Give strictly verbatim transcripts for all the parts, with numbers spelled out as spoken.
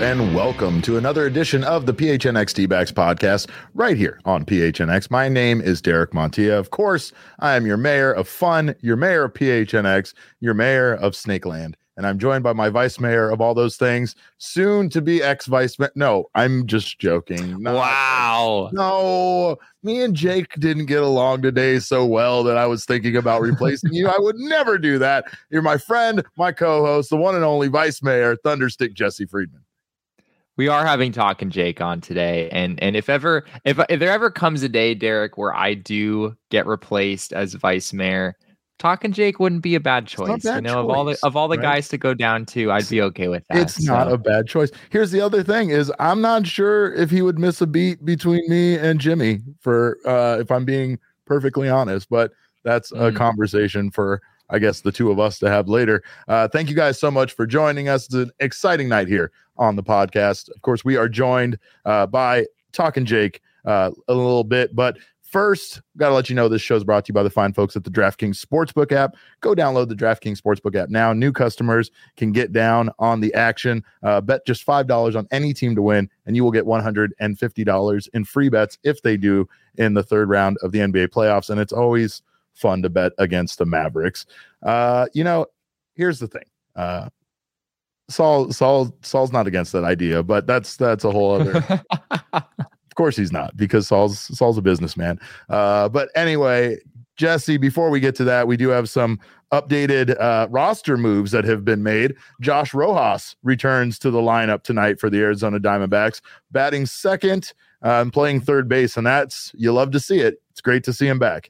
and welcome to another edition of the P H N X D-Backs podcast right here on P H N X. My name is Derek Montilla. Of course, I am your mayor of fun, your mayor of P H N X, your mayor of Snakeland, and I'm joined by my vice mayor of all those things, soon to be ex-vice mayor. No, I'm just joking. Not, wow. No, me and Jake didn't get along today so well that I was thinking about replacing you. I would never do that. You're my friend, my co-host, the one and only vice mayor, Thunderstick Jesse Friedman. We are having Talking Jake on today, and and if ever if if there ever comes a day, Derek, where I do get replaced as vice mayor, Talking Jake wouldn't be a bad choice. Bad you know, choice, of all the of all the right? guys to go down to, I'd be okay with that. It's so. Not a bad choice. Here's the other thing: is I'm not sure if he would miss a beat between me and Jimmy. For uh, if I'm being perfectly honest, but that's mm. a conversation for, I guess, the two of us to have later. Uh, thank you guys so much for joining us. It's an exciting night here on the podcast. Of course, we are joined uh, by Talking Jake uh, a little bit, but first, got to let you know this show is brought to you by the fine folks at the DraftKings Sportsbook app. Go download the DraftKings Sportsbook app now. New customers can get down on the action. Uh, bet just five dollars on any team to win, and you will get one hundred fifty dollars in free bets if they do in the third round of the N B A playoffs, and it's always fun to bet against the Mavericks. Uh, you know, here's the thing. Uh, Saul, Saul, Saul's not against that idea, but that's that's a whole other. Of course he's not, because Saul's Saul's a businessman. Uh, but anyway, Jesse, before we get to that, we do have some updated uh, roster moves that have been made. Josh Rojas returns to the lineup tonight for the Arizona Diamondbacks, batting second uh, and playing third base, and that's, you love to see it. It's great to see him back.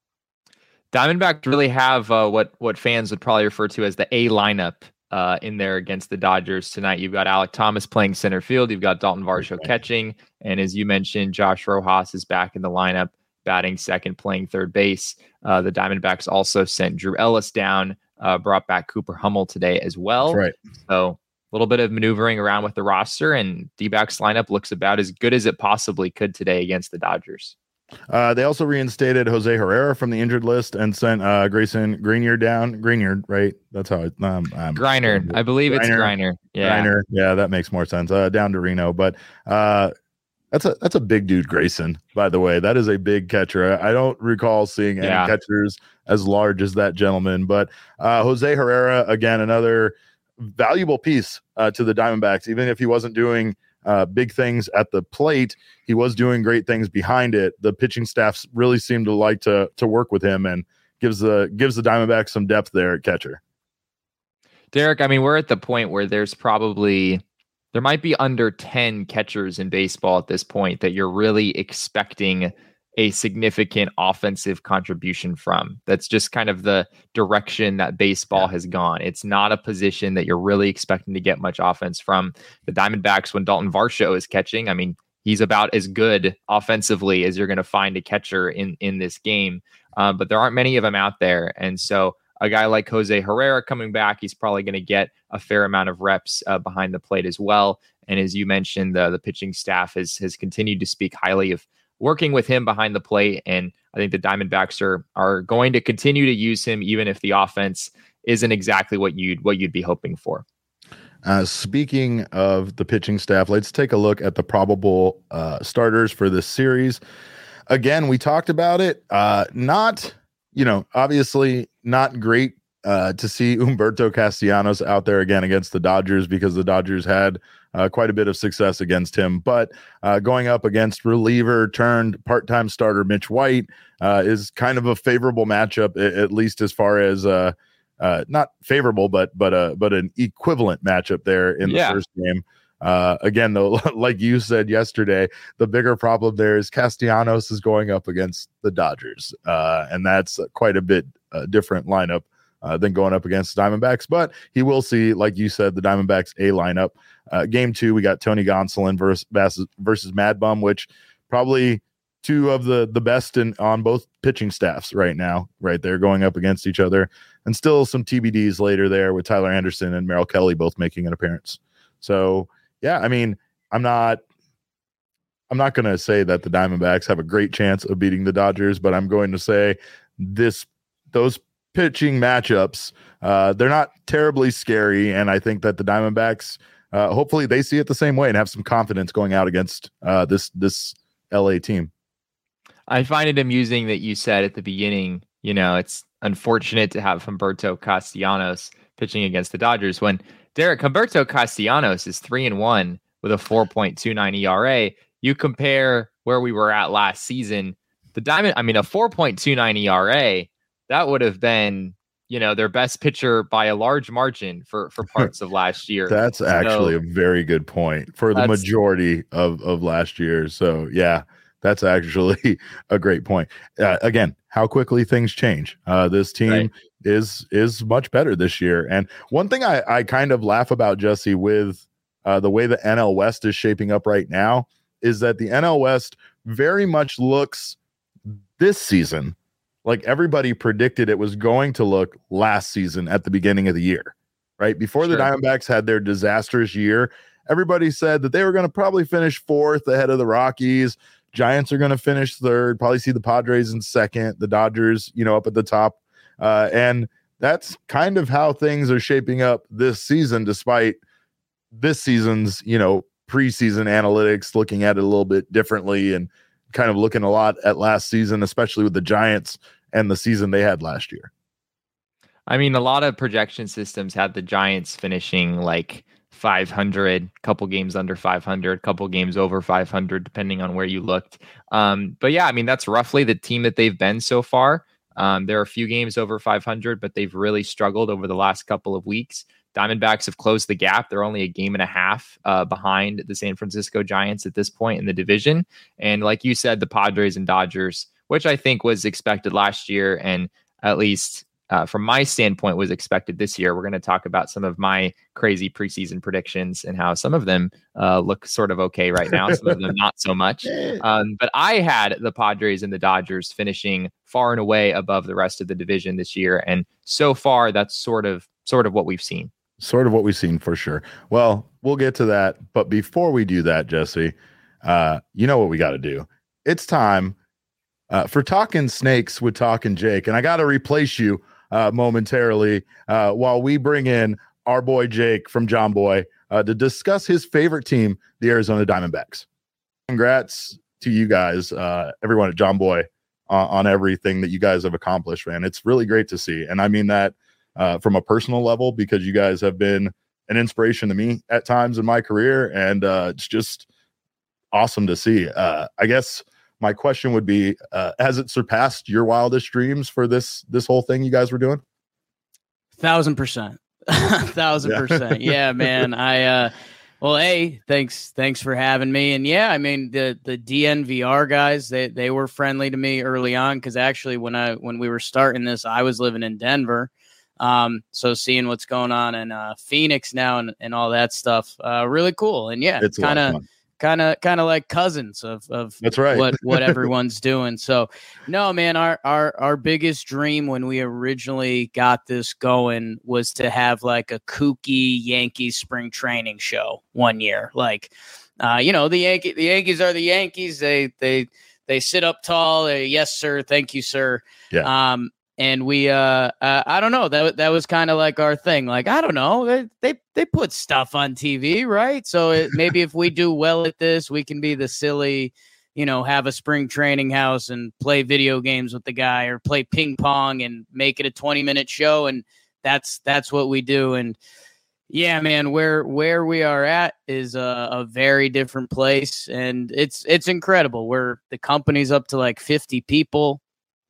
Diamondbacks really have uh, what what fans would probably refer to as the A lineup uh, in there against the Dodgers tonight. You've got Alek Thomas playing center field. You've got Dalton Varsho okay. catching. And as you mentioned, Josh Rojas is back in the lineup, batting second, playing third base. Uh, the Diamondbacks also sent Drew Ellis down, uh, brought back Cooper Hummel today as well. That's right. So a little bit of maneuvering around with the roster, and D-backs lineup looks about as good as it possibly could today against the Dodgers. Uh, they also reinstated Jose Herrera from the injured list and sent uh, Grayson Grenier down. Grenier, right? That's how it. Um, um, Griner, I believe Griner, it's Griner. Yeah, Griner. Yeah, that makes more sense. Uh, down to Reno, but uh, that's a that's a big dude, Grayson. By the way, that is a big catcher. I, I don't recall seeing any yeah. catchers as large as that gentleman. But uh, Jose Herrera, again, another valuable piece uh, to the Diamondbacks, even if he wasn't doing Uh, big things at the plate, he was doing great things behind it. The pitching staffs really seem to like to to work with him, and gives the gives the Diamondbacks some depth there at catcher. Derek, I mean, we're at the point where there's probably there might be under ten catchers in baseball at this point that you're really expecting a significant offensive contribution from. That's just kind of the direction that baseball yeah. has gone. It's not a position that you're really expecting to get much offense from. The Diamondbacks, when Dalton Varsho is catching, I mean, he's about as good offensively as you're going to find a catcher in, in this game. Um, but there aren't many of them out there. And so a guy like Jose Herrera coming back, he's probably going to get a fair amount of reps uh, behind the plate as well. And as you mentioned, the, the pitching staff has, has continued to speak highly of working with him behind the plate. And I think the Diamondbacks are are going to continue to use him, even if the offense isn't exactly what you'd what you'd be hoping for. Uh, speaking of the pitching staff, let's take a look at the probable uh, starters for this series. Again, we talked about it. Uh, not, you know, obviously not great uh, to see Humberto Castellanos out there again against the Dodgers, because the Dodgers had Uh, quite a bit of success against him, but uh, going up against reliever turned part-time starter Mitch White uh, is kind of a favorable matchup, at least as far as uh, uh, not favorable, but but uh, but an equivalent matchup there in the yeah. first game. Uh, again, though, like you said yesterday, the bigger problem there is Castellanos is going up against the Dodgers, uh, and that's quite a bit uh, different lineup Uh, than going up against the Diamondbacks. But he will see, like you said, the Diamondbacks A lineup. Uh, game two, we got Tony Gonsolin versus versus, versus Mad Bum, which probably two of the the best in on both pitching staffs right now, right there, going up against each other. And still some T B Ds later there with Tyler Anderson and Merrill Kelly both making an appearance. So yeah, I mean, I'm not I'm not going to say that the Diamondbacks have a great chance of beating the Dodgers, but I'm going to say this those pitching matchups, uh, they're not terribly scary, and I think that the Diamondbacks uh, hopefully they see it the same way and have some confidence going out against uh, this this L A team. I find it amusing that you said at the beginning, you know, it's unfortunate to have Humberto Castellanos pitching against the Dodgers when Derek Humberto Castellanos is three and one with a four point two nine E R A. You compare where we were at last season, the Diamond, I mean, a four point two nine E R A, that would have been, you know, their best pitcher by a large margin for, for parts of last year. That's so, actually a very good point for the majority of, of last year. So, yeah, that's actually a great point. Uh, again, how quickly things change. Uh, this team right. is is much better this year. And one thing I, I kind of laugh about, Jesse, with uh, the way the N L West is shaping up right now is that the N L West very much looks this season like everybody predicted it was going to look last season at the beginning of the year, right? Before sure. the Diamondbacks had their disastrous year, everybody said that they were going to probably finish fourth ahead of the Rockies. Giants are going to finish third, probably see the Padres in second, the Dodgers, you know, up at the top. Uh, and that's kind of how things are shaping up this season, despite this season's, you know, preseason analytics looking at it a little bit differently and kind of looking a lot at last season, especially with the Giants and the season they had last year. I mean, a lot of projection systems had the Giants finishing like five hundred, couple games under five hundred, couple games over five hundred, depending on where you looked. Um, but yeah, I mean, that's roughly the team that they've been so far. Um, there are a few games over five hundred, but they've really struggled over the last couple of weeks. Diamondbacks have closed the gap. They're only a game and a half uh, behind the San Francisco Giants at this point in the division. And like you said, the Padres and Dodgers, which I think was expected last year, and at least uh, from my standpoint was expected this year. We're going to talk about some of my crazy preseason predictions and how some of them uh, look sort of okay right now, some of them not so much. Um, but I had the Padres and the Dodgers finishing far and away above the rest of the division this year. And so far, that's sort of sort of what we've seen. Sort of what we've seen for sure. Well, we'll get to that. But before we do that, Jesse, uh, you know what we got to do. It's time uh, for Talking Snakes with Talking Jake. And I got to replace you uh, momentarily uh, while we bring in our boy Jake from John Boy uh, to discuss his favorite team, the Arizona Diamondbacks. Congrats to you guys, uh, everyone at John Boy, uh, on everything that you guys have accomplished, man. It's really great to see. And I mean that Uh, from a personal level, because you guys have been an inspiration to me at times in my career, and uh, it's just awesome to see. Uh, I guess my question would be, uh, has it surpassed your wildest dreams for this this whole thing you guys were doing? Thousand percent, thousand percent. Yeah, man. I uh, well, a thanks thanks for having me, and yeah, I mean the the D N V R guys, they they were friendly to me early on, because actually when I when we were starting this, I was living in Denver. Um, so seeing what's going on in uh, Phoenix now and, and all that stuff, uh, really cool. And yeah, it's kind of, kind of, kind of like cousins of, of that's right. what, what everyone's doing. So no, man, our, our, our biggest dream when we originally got this going was to have like a kooky Yankees spring training show one year. Like, uh, you know, the Yankee, the Yankees are the Yankees. They, they, they sit up tall. They, yes, sir. Thank you, sir. Yeah. Um, And we, uh, uh, I don't know, that that was kind of like our thing. Like, I don't know, they they, they put stuff on T V, right? So it, maybe if we do well at this, we can be the silly, you know, have a spring training house and play video games with the guy, or play ping pong and make it a twenty minute show. And that's that's what we do. And yeah, man, where where we are at is a, a very different place, and it's it's incredible. We're the company's up to like fifty people.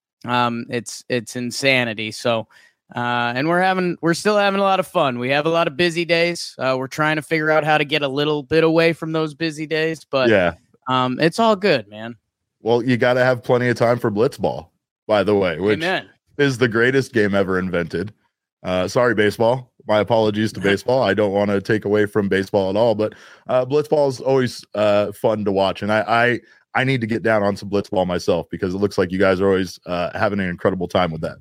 Um, it's, it's insanity. So, uh, and we're having, we're still having a lot of fun. We have a lot of busy days. Uh, we're trying to figure out how to get a little bit away from those busy days, but yeah, um, it's all good, man. Well, you got to have plenty of time for blitzball, by the way, which Amen. is the greatest game ever invented. Uh, sorry, baseball. My apologies to baseball. I don't want to take away from baseball at all, but uh, blitzball is always uh, fun to watch. And I, I, I need to get down on some blitzball myself, because it looks like you guys are always uh, having an incredible time with that.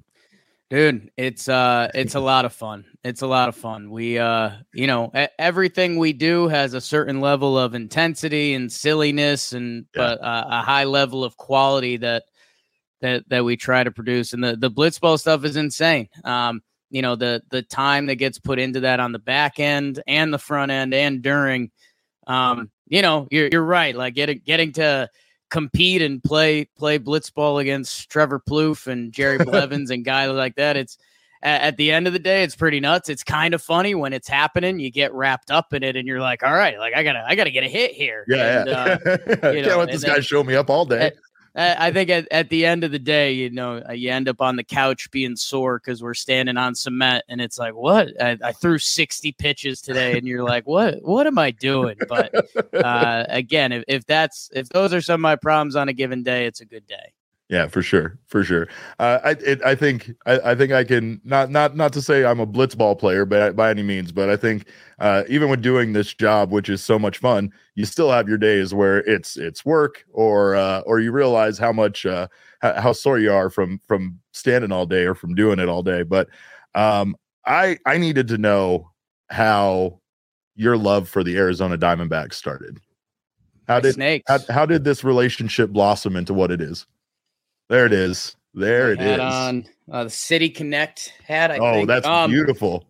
Dude, it's uh, it's a lot of fun. It's a lot of fun. We, uh, you know, a- everything we do has a certain level of intensity and silliness, and yeah. but uh, a high level of quality that that that we try to produce. And the the blitzball stuff is insane. Um, you know, the the time that gets put into that on the back end and the front end and during, um, you know, you're you're right. Like getting getting to compete and play play blitzball against Trevor Plouffe and Jerry Blevins and guys like that. It's at, at the end of the day, it's pretty nuts. It's kind of funny when it's happening. You get wrapped up in it, and you're like, "All right, like I gotta I gotta get a hit here." Yeah, and, yeah. Uh, Can't know, let this then, guy show me up all day. I think at, at the end of the day, you know, you end up on the couch being sore because we're standing on cement, and it's like, what? I, I threw sixty pitches today, and you're like, what? What am I doing? But uh, again, if, if that's if those are some of my problems on a given day, it's a good day. Yeah, for sure, for sure. Uh, I it, I think I, I think I can not not not to say I'm a blitzball player, but by any means, but I think uh, even with doing this job, which is so much fun, you still have your days where it's it's work, or uh, or you realize how much uh, how, how sore you are from from standing all day or from doing it all day. But um, I I needed to know how your love for the Arizona Diamondbacks started. How did Snakes. How, how did this relationship blossom into what it is? There it is. There it is. On uh, the City Connect hat. I oh, think. that's um, beautiful.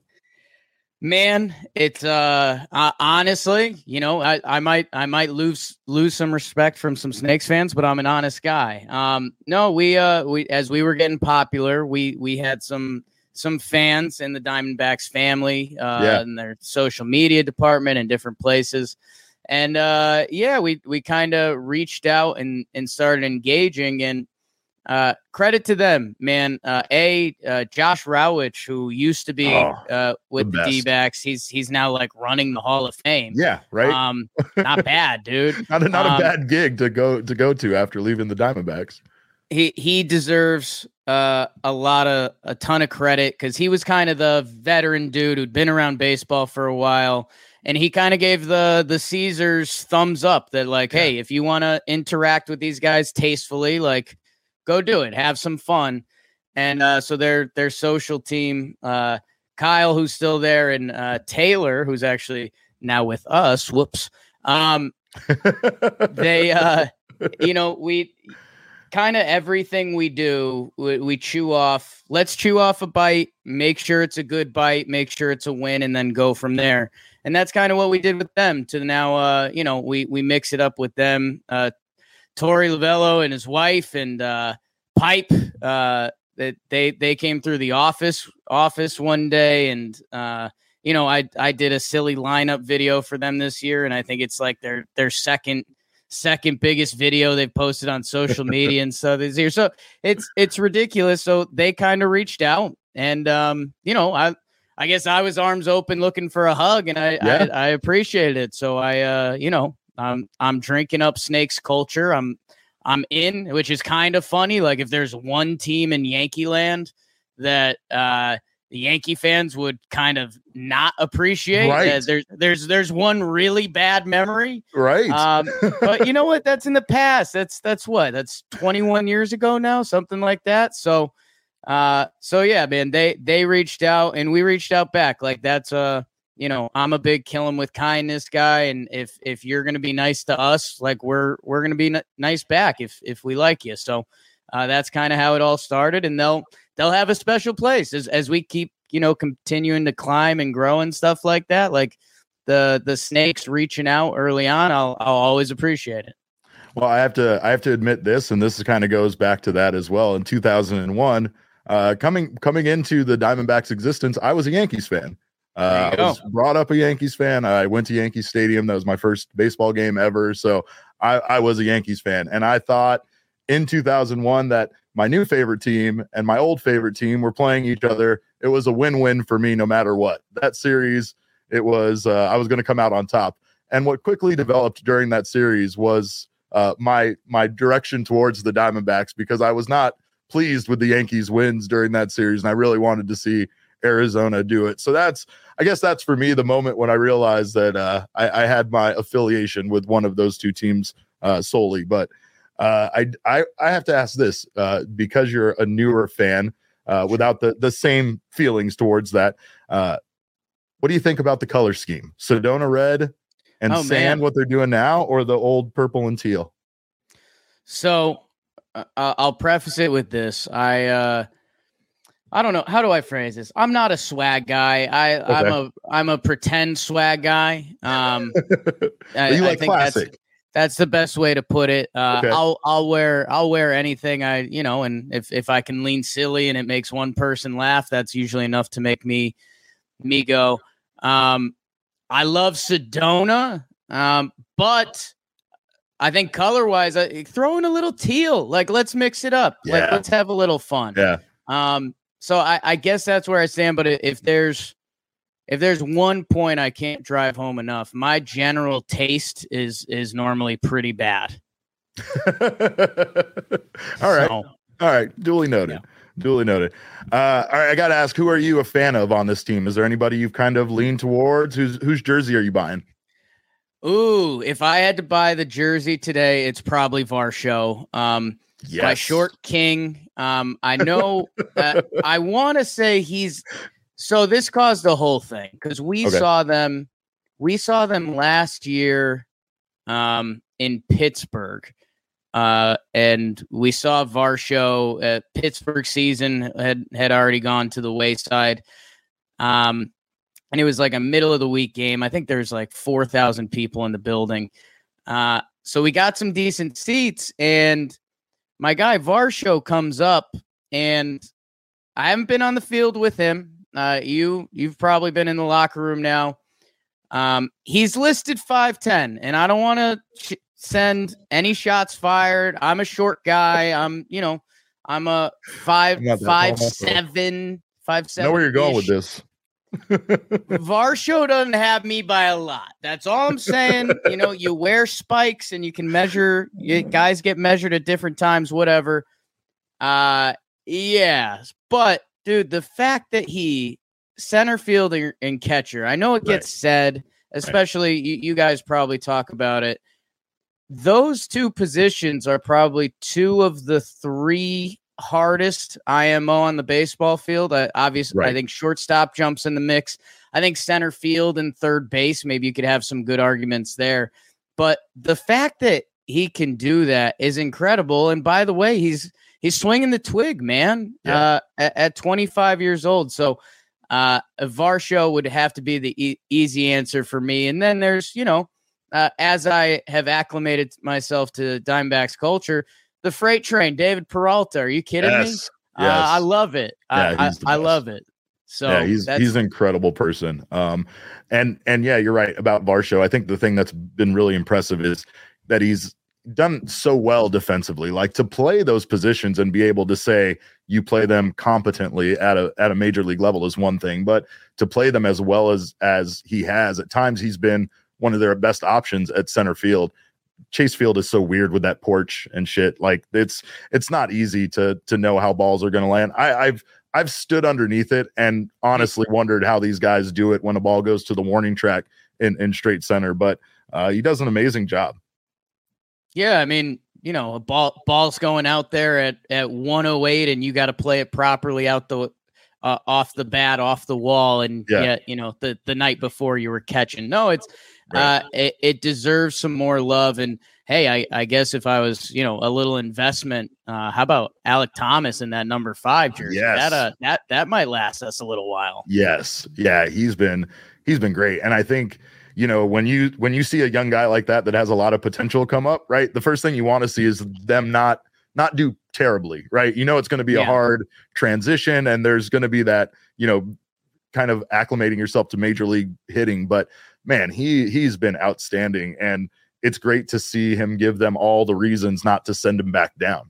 Man, it's uh, uh honestly, you know, I, I might I might lose lose some respect from some Snakes fans, but I'm an honest guy. Um, no, we uh we as we were getting popular, we we had some some fans in the Diamondbacks family, uh, Yeah. in their social media department and different places. And uh, yeah, we we kind of reached out and and started engaging, and uh, credit to them, man. Uh, a uh, Josh Rowich, who used to be Oh, uh, with the the, best. D-backs, he's he's now like running the Hall of Fame. Yeah, right. Um, not bad, dude. not a, not um, a bad gig to go to go to after leaving the Diamondbacks. He he deserves uh, a lot of a ton of credit because he was kind of the veteran dude who'd been around baseball for a while. And he kind of gave the the Caesars thumbs up that like, yeah. Hey, if you want to interact with these guys tastefully, like, go do it, have some fun. And uh, so their their social team, uh, Kyle, who's still there, and uh, Taylor, who's actually now with us. Whoops. Um, they, uh, you know, we kind of everything we do, we, we chew off. Let's chew off a bite. Make sure it's a good bite. Make sure it's a win, and then go from there. And that's kind of what we did with them to now, uh, you know, we, we mix it up with them. Uh, Torey Lovello and his wife and uh, Pipe, uh, that they, they came through the office office one day. And, uh, you know, I, I did a silly lineup video for them this year. And I think it's like their, their second, second biggest video they've posted on social media and stuff this year. So it's, it's ridiculous. So they kind of reached out and, um, you know, I, I guess I was arms open looking for a hug, and I yeah. I, I appreciated it. So I, uh, you know, I'm I'm drinking up Snakes culture. I'm I'm in, which is kind of funny. Like if there's one team in Yankee land that uh, the Yankee fans would kind of not appreciate, right. uh, there's there's there's one really bad memory, right? Um, but you know what? That's in the past. That's that's what that's twenty-one years ago now, something like that. So. Uh, so yeah, man, they, they reached out and we reached out back. Like that's, uh, you know, I'm a big kill 'em with kindness guy. And if, if you're going to be nice to us, like we're, we're going to be n- nice back if, if we like you. So, uh, that's kind of how it all started, and they'll, they'll have a special place as, as we keep, you know, continuing to climb and grow and stuff like that. Like the, the Snakes reaching out early on, I'll, I'll always appreciate it. Well, I have to, I have to admit this, and this kind of goes back to that as well. In two thousand one, Uh, coming coming into the Diamondbacks' existence, I was a Yankees fan. Uh, I was brought up a Yankees fan. I went to Yankee Stadium. That was my first baseball game ever. So I, I was a Yankees fan. And I thought in two thousand one that my new favorite team and my old favorite team were playing each other. It was a win-win for me no matter what. That series, it was uh, I was going to come out on top. And what quickly developed during that series was uh, my my direction towards the Diamondbacks, because I was not pleased with the Yankees wins during that series, and I really wanted to see Arizona do it. So that's, I guess that's for me the moment when I realized that uh, I, I had my affiliation with one of those two teams uh, solely. But uh, I, I I have to ask this uh, because you're a newer fan uh, without the the same feelings towards that. Uh, what do you think about the color scheme? Sedona red and oh, sand, man. what they're doing now, or the old purple and teal? So. Uh, I'll preface it with this. I, uh, I don't know. How do I phrase this? I'm not a swag guy. I, Okay. I'm a I'm a pretend swag guy. Um, I, you I like think classic. That's, that's the best way to put it. Uh, Okay. I'll I'll wear I'll wear anything I you know, and if if I can lean silly and it makes one person laugh, that's usually enough to make me me go. Um, I love Sedona, um, but I think color wise, I throw in a little teal. Like let's mix it up. Yeah. Like let's have a little fun. Yeah. Um. So I, I guess that's where I stand. But if there's if there's one point I can't drive home enough, my general taste is is normally pretty bad. All right. So, All right. Duly noted. Yeah. Duly noted. Uh, all right. I got to ask, who are you a fan of on this team? Is there anybody you've kind of leaned towards? Whose whose jersey are you buying? Ooh, if I had to buy the jersey today, it's probably Varsho. Um, Yes. by Short King. Um, I know. uh, I want to say he's. So this caused the whole thing because we Okay. saw them. We saw them last year, um, in Pittsburgh, uh, and we saw Varsho. Uh, Pittsburgh season had had already gone to the wayside. Um, and it was like a middle of the week game. I think there's like four thousand people in the building. Uh, so we got some decent seats, and my guy Varsho comes up, and I haven't been on the field with him. Uh, you, you've probably been in the locker room now. Um, he's listed five ten, and I don't want to sh- send any shots fired. I'm a short guy. I'm, you know, I'm a five, I'm not that five, tall. seven, five, I seven. know where you're going with this. Varsho doesn't have me by a lot. That's all I'm saying. You know, you wear spikes and you can measure. You, guys get measured at different times, whatever. Uh, yeah. But, dude, the fact that he center fielder and catcher, I know it gets Right. said, especially right. you, you guys probably talk about it. Those two positions are probably two of the three hardest I M O on the baseball field. I, obviously, Right. I think shortstop jumps in the mix. I think center field and third base, maybe you could have some good arguments there. But the fact that he can do that is incredible. And by the way, he's he's swinging the twig, man, Yeah. uh, at, at twenty-five years old. So uh, Varsho would have to be the e- easy answer for me. And then there's, you know, uh, as I have acclimated myself to Diamondbacks culture, the freight train, David Peralta. Are you kidding Yes. me? Yes. Uh, I love it. Yeah, I, he's the I, I best. love it. So yeah, he's that's, he's an incredible person. Um, and and yeah, you're right about Varsho. I think the thing that's been really impressive is that he's done so well defensively. Like to play those positions and be able to say you play them competently at a at a major league level is one thing, but to play them as well as as he has at times, he's been one of their best options at center field. Chase Field is so weird with that porch and shit. Like it's it's not easy to to know how balls are going to land. I, I've I've stood underneath it and honestly wondered how these guys do it when a ball goes to the warning track in, in straight center. But uh, he does an amazing job. Yeah, I mean, you know, a ball ball's going out there at at one oh eight, and you got to play it properly out the uh, off the bat, off the wall, and Yeah. yeah, you know, the the night before you were catching. No, it's. Right. Uh, it, it deserves some more love. And hey, I, I guess if I was, you know, a little investment, uh, how about Alec Thomas in that number five jersey? Yes. That uh, that that might last us a little while. Yes. Yeah, he's been he's been great. And I think, you know, when you when you see a young guy like that that has a lot of potential come up, right? The first thing you want to see is them not not do terribly, right? You know, it's going to be Yeah. a hard transition and there's going to be that, you know, kind of acclimating yourself to major league hitting, but man, he he's been outstanding, and it's great to see him give them all the reasons not to send him back down.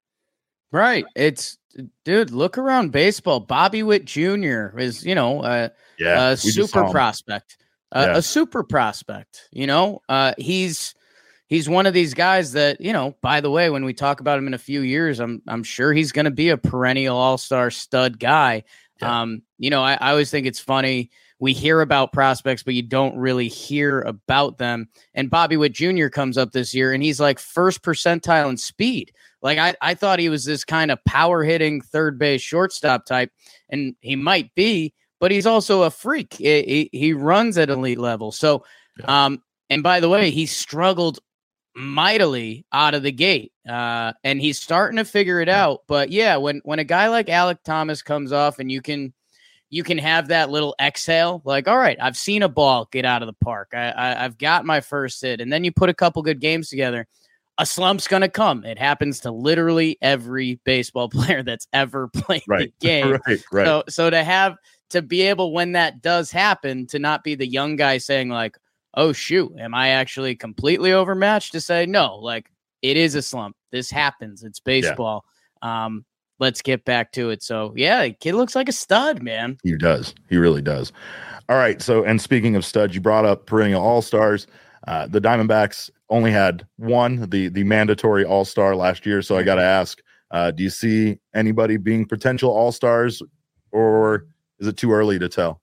Right. It's dude, look around baseball. Bobby Witt Junior is, you know, uh, Yeah, a we just super saw him. prospect, uh, Yeah. a super prospect. You know, uh, he's he's one of these guys that, you know. By the way, when we talk about him in a few years, I'm I'm sure he's going to be a perennial all-star stud guy. Yeah. Um, you know, I, I always think it's funny. We hear about prospects, but you don't really hear about them. And Bobby Witt Junior comes up this year, and he's like first percentile in speed. Like I, I thought he was this kind of power hitting third base shortstop type, and he might be, but he's also a freak. He, he, he runs at elite level. So, Yeah. um, and by the way, he struggled mightily out of the gate. Uh, and he's starting to figure it out. But yeah, when, when a guy like Alek Thomas comes off and you can, you can have that little exhale, like, all right, I've seen a ball get out of the park. I, I I've got my first hit. And then you put a couple good games together. A slump's going to come. It happens to literally every baseball player that's ever played right. the game. right, right. So, so to have, to be able, when that does happen, to not be the young guy saying like, oh shoot, am I actually completely overmatched? To say, no, like it is a slump. This happens. It's baseball. Yeah. Um, let's get back to it. So yeah, the kid looks like a stud, man. He does. He really does. All right. So, and speaking of studs, you brought up perennial all-stars. Uh, the Diamondbacks only had one, the, the mandatory all-star last year. So I got to ask, uh, do you see anybody being potential all-stars, or is it too early to tell?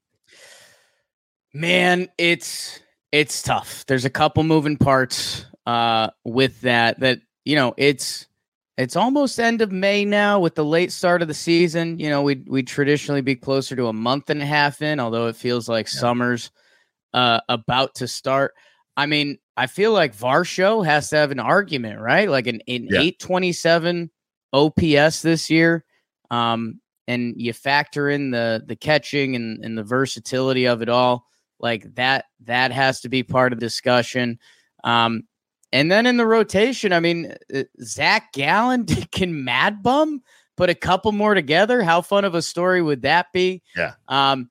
Man, it's, it's tough. There's a couple moving parts uh, with that, that, you know, it's, it's almost end of May now with the late start of the season. You know, we'd, we'd traditionally be closer to a month and a half in, although it feels like yeah. summer's uh, about to start. I mean, I feel like Varsho has to have an argument, right? Like an, an yeah. eight twenty-seven O P S this year. Um, and you factor in the, the catching and, and the versatility of it all. Like that, that has to be part of the discussion. Um, and then in the rotation, I mean, uh, Zach Gallen, can Mad Bum put a couple more together? How fun of a story would that be? Yeah. Um,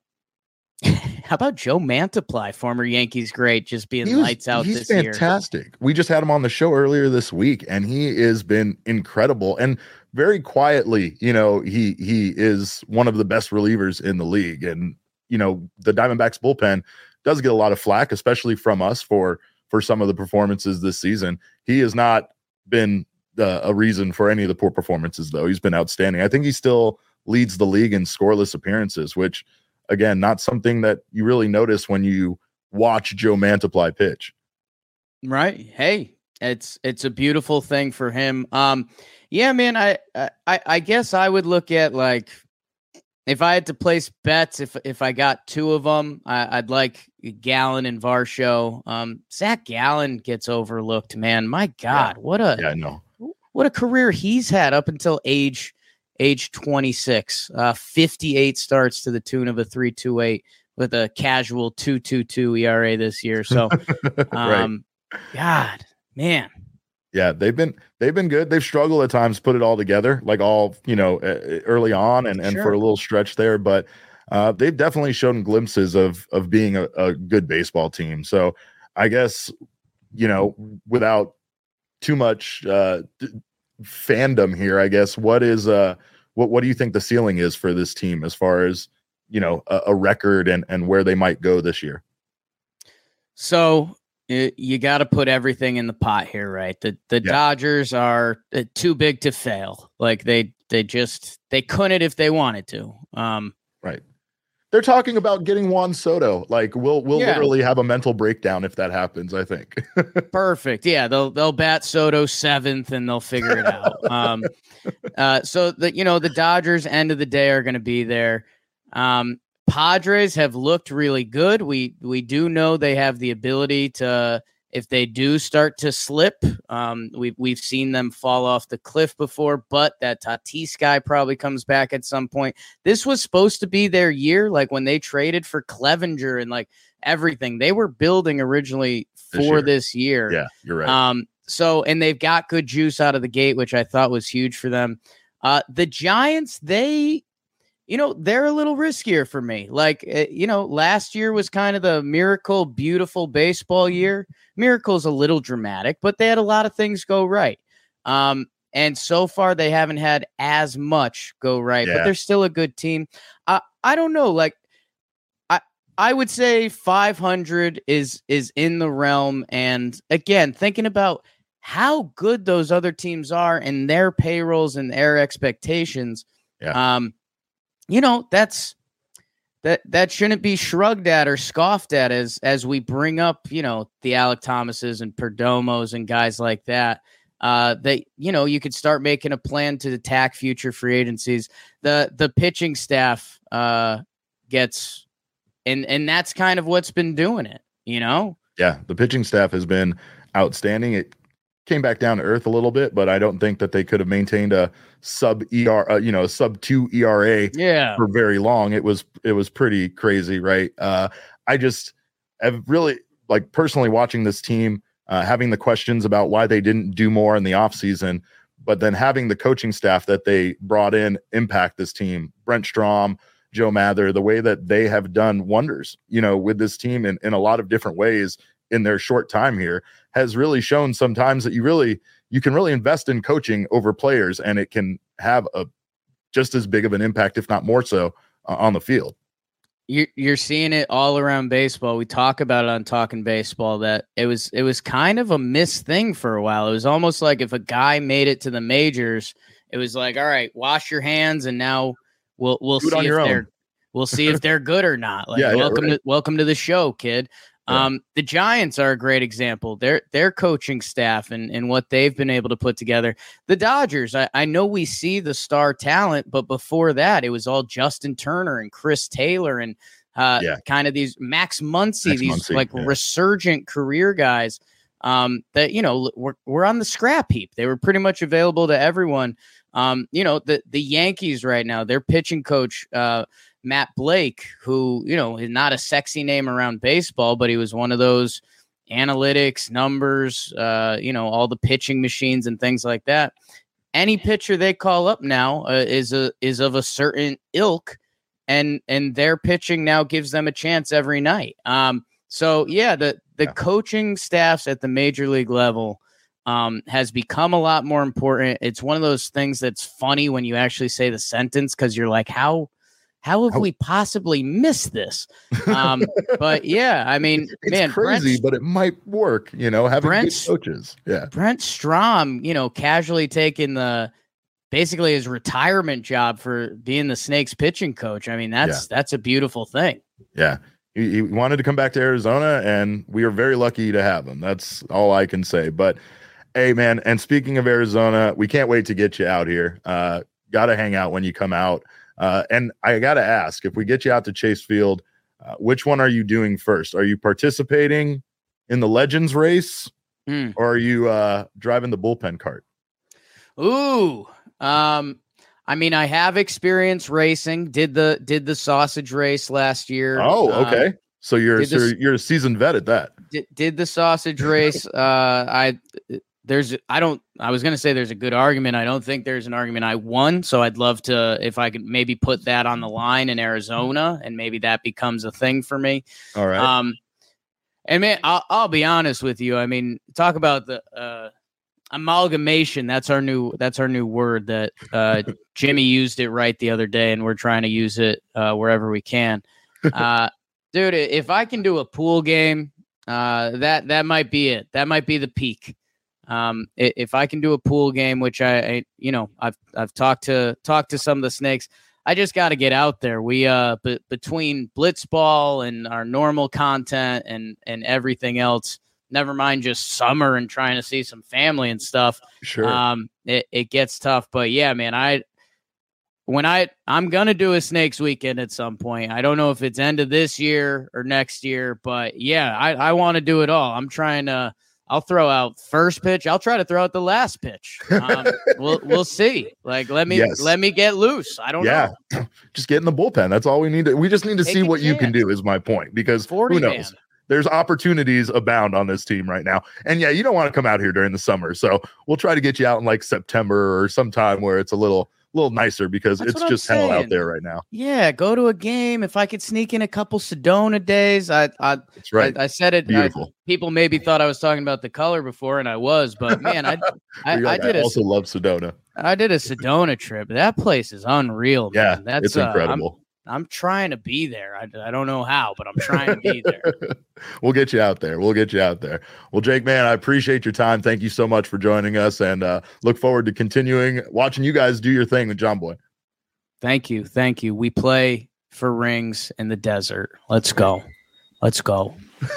how about Joe Mantiply, former Yankees great, just being was, lights out he's this year? He's fantastic. We just had him on the show earlier this week, and he has been incredible. And very quietly, you know, he he is one of the best relievers in the league. And you know, the Diamondbacks bullpen does get a lot of flack, especially from us for for some of the performances this season. He has not been uh, a reason for any of the poor performances, though. He's been outstanding. I think he still leads the league in scoreless appearances, which, again, not something that you really notice when you watch Joe Mantiply pitch. Right. Hey, it's it's a beautiful thing for him. Um, yeah, man. I I I guess I would look at, like, if I had to place bets, if if I got two of them, I, I'd like Gallen and Varsho. Um, Zach Gallen gets overlooked, man. My God, yeah. what a yeah, I know. what a career he's had up until age age twenty-six. Uh, fifty-eight starts to the tune of a three point two eight with a casual two point two two E R A this year. So, um, right. God, man. Yeah, they've been they've been good. They've struggled at times to put it all together, like all, you know, uh, early on and, and sure. for a little stretch there. But uh, they've definitely shown glimpses of of being a, a good baseball team. So I guess, you know, without too much uh, fandom here, I guess, what is uh what what do you think the ceiling is for this team as far as, you know, a, a record and and where they might go this year? So It, you got to put everything in the pot here, right? The the yeah. Dodgers are uh, too big to fail. Like they they just they couldn't if they wanted to. Um, right. They're talking about getting Juan Soto. Like we'll we'll yeah. literally have a mental breakdown if that happens, I think. Perfect. Yeah, they'll they'll bat Soto seventh and they'll figure it out. um, uh, so the you know the Dodgers end of the day are going to be there. Um, Padres have looked really good. We we do know they have the ability to, if they do start to slip, um, we've we've seen them fall off the cliff before. But that Tatis guy probably comes back at some point. This was supposed to be their year, like when they traded for Clevenger and like everything. They were building originally for this year. This year. Yeah, you're right. Um, so and they've got good juice out of the gate, which I thought was huge for them. Uh, the Giants, they. You know, they're a little riskier for me. Like, you know, last year was kind of the miracle, beautiful baseball year. Miracle's a little dramatic, but they had a lot of things go right. Um, and so far, they haven't had as much go right, yeah. but they're still a good team. Uh, I don't know. Like, I I would say five hundred is is in the realm. And again, thinking about how good those other teams are and their payrolls and their expectations. Yeah. Um, You know, that's that that shouldn't be shrugged at or scoffed at as as we bring up, you know, the Alek Thomases and Perdomos and guys like that. Uh, that, you know, you could start making a plan to attack future free agencies. The the pitching staff uh, gets and and that's kind of what's been doing it, you know? Yeah, the pitching staff has been outstanding. It came back down to earth a little bit, but I don't think that they could have maintained a sub E R, uh, you know, a sub two E R A yeah. for very long. It was it was pretty crazy, right? Uh, I just have really like personally watching this team, uh, having the questions about why they didn't do more in the offseason, but then having the coaching staff that they brought in impact this team. Brent Strom, Joe Mather, the way that they have done wonders, you know, with this team in, in a lot of different ways in their short time here has really shown sometimes that you really, you can really invest in coaching over players, and it can have a just as big of an impact, if not more so, uh, on the field. You're, you're seeing it all around baseball. We talk about it on Talking Baseball that it was it was kind of a missed thing for a while. It was almost like if a guy made it to the majors, it was like, all right, wash your hands, and now we'll we'll see if they're own. we'll see if they're good or not. Like, yeah, welcome yeah, right. to welcome to the show, kid. Yeah. Um, the Giants are a great example. Their their coaching staff and, and what they've been able to put together. The Dodgers, I, I know we see the star talent, but before that, it was all Justin Turner and Chris Taylor and uh, yeah. kind of these Max Muncy, Max these Muncy, like yeah. resurgent career guys um, that, you know, were, were on the scrap heap. They were pretty much available to everyone. Um, you know, the, the Yankees right now, their pitching coach, uh, Matt Blake, who, you know, is not a sexy name around baseball, but he was one of those analytics, numbers, uh, you know, all the pitching machines and things like that. Any pitcher they call up now uh, is a is of a certain ilk, and and their pitching now gives them a chance every night. Um, so yeah, the the yeah. coaching staffs at the major league level um, has become a lot more important. It's one of those things that's funny when you actually say the sentence, because you're like, how. How have we possibly missed this? Um, but yeah, I mean, it's man, crazy, Brent, but it might work, you know, having Brent, good coaches. Yeah. Brent Strom, you know, casually taking the basically his retirement job for being the Snakes pitching coach. I mean, that's yeah. that's a beautiful thing. Yeah. He, he wanted to come back to Arizona, and we are very lucky to have him. That's all I can say. But hey, man, and speaking of Arizona, we can't wait to get you out here. Uh, got to hang out when you come out. Uh, and I got to ask, if we get you out to Chase Field, uh, which one are you doing first? Are you participating in the Legends race mm. or are you uh, driving the bullpen cart? Ooh, um, I mean, I have experience racing, did the, did the sausage race last year. Oh, okay. Um, so you're, so the, you're a seasoned vet at that. Did, did the sausage race. uh, I, There's, I don't, I was going to say there's a good argument. I don't think there's an argument I won. So I'd love to, if I could maybe put that on the line in Arizona, and maybe that becomes a thing for me. All right. Um, and man, I'll, I'll be honest with you. I mean, talk about the uh, amalgamation. That's our new, that's our new word that uh, Jimmy used it right the other day, and we're trying to use it uh, wherever we can. Uh, dude, if I can do a pool game, uh, that, that might be it. That might be the peak. Um, if I can do a pool game, which I, I you know, I've, I've talked to, talked to some of the Snakes, I just got to get out there. We, uh, b- between Blitzball and our normal content and, and everything else, never mind just summer and trying to see some family and stuff. Sure. Um, it, it gets tough, but yeah, man, I, when I, I'm going to do a Snakes weekend at some point. I don't know if it's end of this year or next year, but yeah, I, I want to do it all. I'm trying to, I'll throw out first pitch. I'll try to throw out the last pitch. Um, we'll we'll see. Like let me yes. let me get loose. I don't yeah. know. Just get in the bullpen. That's all we need to. We just need to Take see what chance. you can do. Is my point, because who knows? Man. There's opportunities abound on this team right now. And yeah, you don't want to come out here during the summer, so we'll try to get you out in like September or sometime where it's a little. little nicer, because That's it's just hell out there right now. Yeah, go to a game. If I could sneak in a couple Sedona days, I I That's right. I, I said it. Beautiful. I, people maybe thought I was talking about the color before, and I was, but man, I I, like, I did I also a, love Sedona. I did a Sedona trip. That place is unreal. Man. Yeah, that's it's incredible. Uh, I'm, I'm trying to be there. I, I don't know how, but I'm trying to be there. We'll get you out there. We'll get you out there. Well, Jake, man, I appreciate your time. Thank you so much for joining us, and uh, look forward to continuing watching you guys do your thing with John Boy. Thank you. Thank you. We play for rings in the desert. Let's go. Let's go.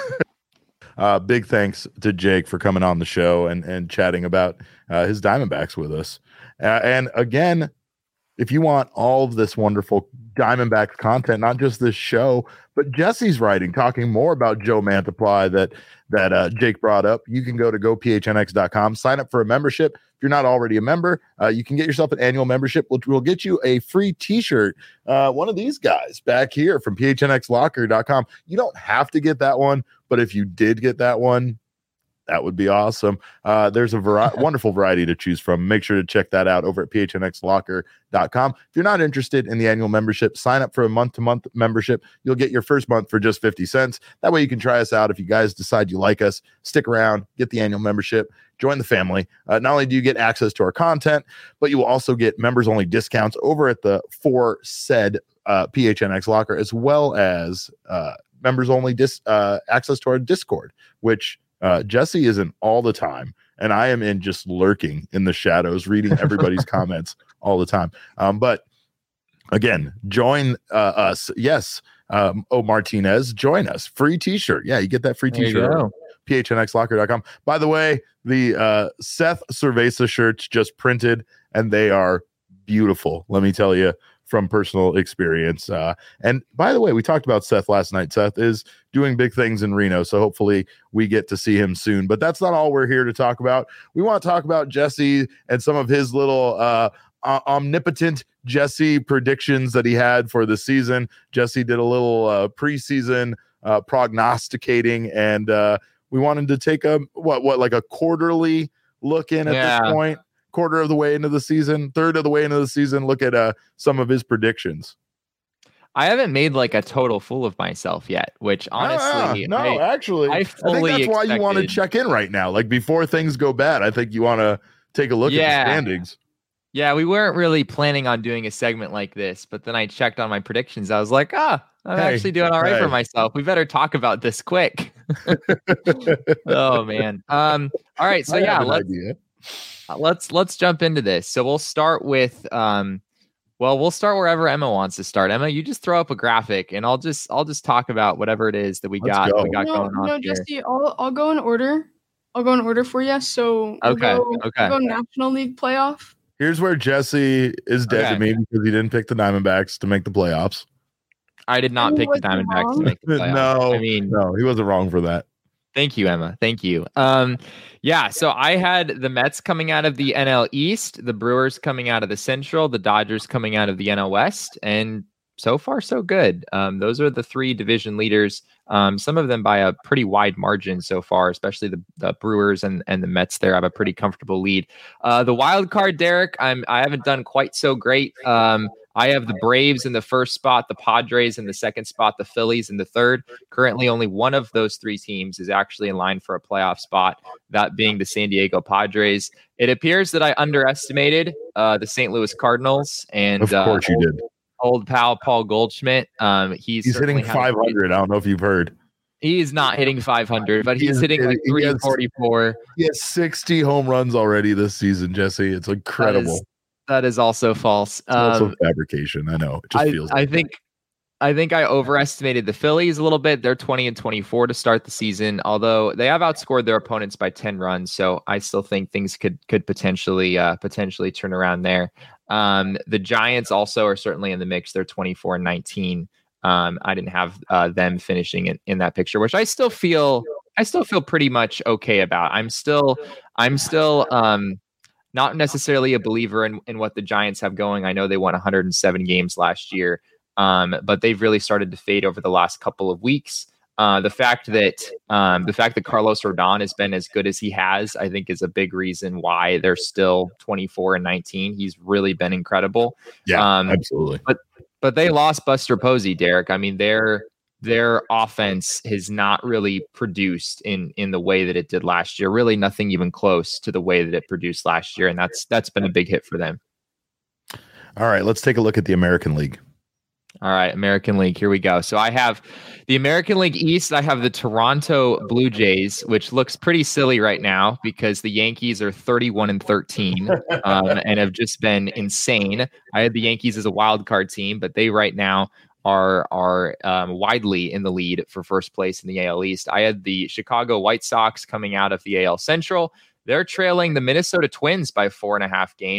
uh, big thanks to Jake for coming on the show and, and chatting about uh, his Diamondbacks with us. Uh, and again, if you want all of this wonderful Diamondbacks content, not just this show, but Jesse's writing, talking more about Joe Mantiply that that uh, Jake brought up. You can go to go p h n x dot com, sign up for a membership. If you're not already a member, uh, you can get yourself an annual membership, which will get you a free t-shirt. Uh, one of these guys back here from p h n x locker dot com. You don't have to get that one, but if you did get that one, that would be awesome. Uh, there's a vari- wonderful variety to choose from. Make sure to check that out over at p h n x locker dot com. If you're not interested in the annual membership, sign up for a month-to-month membership. You'll get your first month for just fifty cents. That way you can try us out. If you guys decide you like us, stick around, get the annual membership, join the family. Uh, not only do you get access to our content, but you will also get members-only discounts over at the for said uh, P H N X Locker, as well as uh, members-only dis- uh, access to our Discord, which Uh, Jesse is in all the time, and I am in just lurking in the shadows, reading everybody's comments all the time. Um, but again, join uh, us. Yes. Um, oh, Martinez, join us. Free t-shirt. Yeah, you get that free t-shirt. p h n x locker dot com. By the way, the uh, Seth Cerveza shirts just printed, and they are beautiful. Let me tell you, from personal experience. Uh, and by the way, we talked about Seth last night. Seth is doing big things in Reno, so hopefully we get to see him soon. But that's not all we're here to talk about. We want to talk about Jesse and some of his little uh, uh, omnipotent Jesse predictions that he had for the season. Jesse did a little uh, preseason uh, prognosticating, and uh, we wanted to take a what what like a quarterly look in at yeah. this point. Quarter of the way into the season, third of the way into the season, look at uh, some of his predictions. I haven't made like a total fool of myself yet, which honestly, no, no I, actually, I, I think that's why you want to check in right now. Like before things go bad, I think you want to take a look yeah. at the standings. Yeah, we weren't really planning on doing a segment like this, but then I checked on my predictions. I was like, ah, I'm hey, actually doing all right hey. for myself. We better talk about this quick. Oh man. Um. All right. So I yeah, have an let's. idea. Let's let's jump into this. So we'll start with um well, we'll start wherever Emma wants to start. Emma, you just throw up a graphic and I'll just I'll just talk about whatever it is that we Let's got go. we got no, going on. No, here. Jesse, I'll I'll go in order. I'll go in order for you. So we'll okay, go, okay. We'll go National League playoff. Here's where Jesse is dead okay. to me because he didn't pick the Diamondbacks to make the playoffs. I did not He pick the Diamondbacks wrong. to make the playoffs. no, I mean no, he wasn't wrong for that. Thank you, Emma. Thank you. Um, yeah, so I had the Mets coming out of the N L East, the Brewers coming out of the Central, the Dodgers coming out of the N L West, and so far so good. Um, those are the three division leaders. Um, some of them by a pretty wide margin so far, especially the, the Brewers and, and the Mets there have a pretty comfortable lead. Uh, the wild card, Derek, I'm I haven't done quite so great. Um, I have the Braves in the first spot, the Padres in the second spot, the Phillies in the third. Currently, only one of those three teams is actually in line for a playoff spot, that being the San Diego Padres. It appears that I underestimated uh, the Saint Louis Cardinals. And of course uh, you did. Old pal Paul Goldschmidt. Um, he's he's hitting five hundred. I don't know if you've heard. He's not hitting five hundred, but he's he is, hitting like three forty-four. He has sixty home runs already this season, Jesse. It's incredible. That is, that is also false. It's also um, fabrication. I know. It just I, feels I like think I think I overestimated the Phillies a little bit. They're twenty and twenty-four to start the season, although they have outscored their opponents by ten runs. So I still think things could could potentially uh, potentially turn around there. Um, the Giants also are certainly in the mix. They're twenty-four and nineteen. Um, I didn't have uh, them finishing in, in that picture, which I still feel I still feel pretty much okay about. I'm still I'm still um, not necessarily a believer in, in what the Giants have going. I know they won one hundred seven games last year, um, but they've really started to fade over the last couple of weeks. Uh, the fact that um, the fact that Carlos Rodon has been as good as he has, I think, is a big reason why they're still twenty-four and nineteen. He's really been incredible. Yeah, um, absolutely. But but they lost Buster Posey, Derek. I mean, their their offense has not really produced in in the way that it did last year. Really, nothing even close to the way that it produced last year, and that's that's been a big hit for them. All right, let's take a look at the American League. All right, American League. Here we go. So I have the American League East. I have the Toronto Blue Jays, which looks pretty silly right now because the Yankees are thirty-one and thirteen um, and have just been insane. I had the Yankees as a wild card team, but they right now are are um, widely in the lead for first place in the A L East. I had the Chicago White Sox coming out of the A L Central. They're trailing the Minnesota Twins by four and a half games.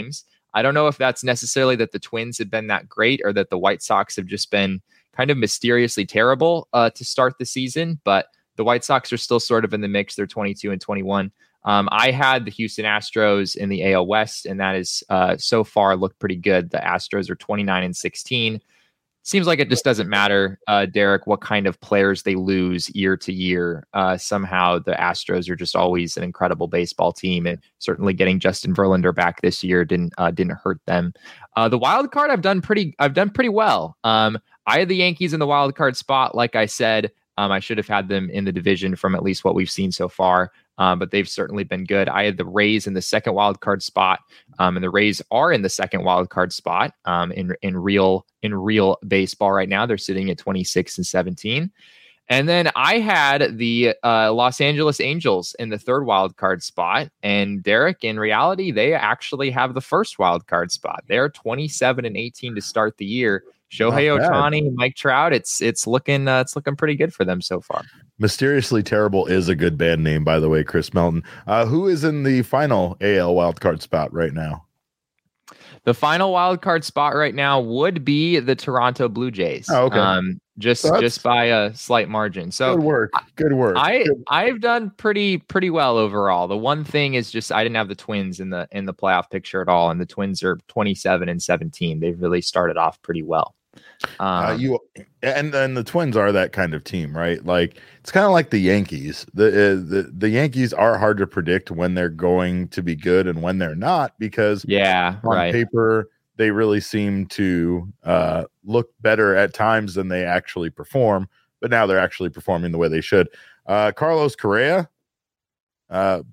I don't know if that's necessarily that the Twins have been that great or that the White Sox have just been kind of mysteriously terrible uh, to start the season, but the White Sox are still sort of in the mix. They're twenty-two and twenty-one. Um, I had the Houston Astros in the A L West, and that is uh, so far looked pretty good. The Astros are twenty-nine and sixteen. Seems like it just doesn't matter, uh, Derek, what kind of players they lose year to year. Uh, somehow the Astros are just always an incredible baseball team, and certainly getting Justin Verlander back this year didn't uh, didn't hurt them. Uh, the wild card, I've done pretty, I've done pretty well. Um, I had the Yankees in the wild card spot, like I said. Um, I should have had them in the division from at least what we've seen so far, um, but they've certainly been good. I had the Rays in the second wild card spot, um, and the Rays are in the second wild card spot um, in in real in real baseball right now. They're sitting at twenty-six and seventeen. And then I had the uh, Los Angeles Angels in the third wild card spot. And Derek, in reality, they actually have the first wild card spot. They're twenty-seven and eighteen to start the year. Shohei Ohtani, Mike Trout, it's it's looking uh, it's looking pretty good for them so far. Mysteriously Terrible is a good band name, by the way, Chris Melton. Uh, who is in the final A L wildcard spot right now? The final wild card spot right now would be the Toronto Blue Jays. Oh, okay. Um, just So just by a slight margin. So good work. Good work. I Good. I've done pretty pretty well overall. The one thing is just I didn't have the Twins in the in the playoff picture at all, and the Twins are twenty-seven and seventeen. They've really started off pretty well. Um, Uh, you and and the Twins are that kind of team, right? Like it's kind of like the Yankees. The, uh, the the Yankees are hard to predict when they're going to be good and when they're not, because yeah, on right. paper they really seem to uh, look better at times than they actually perform. But now they're actually performing the way they should. Uh, Carlos Correa, uh,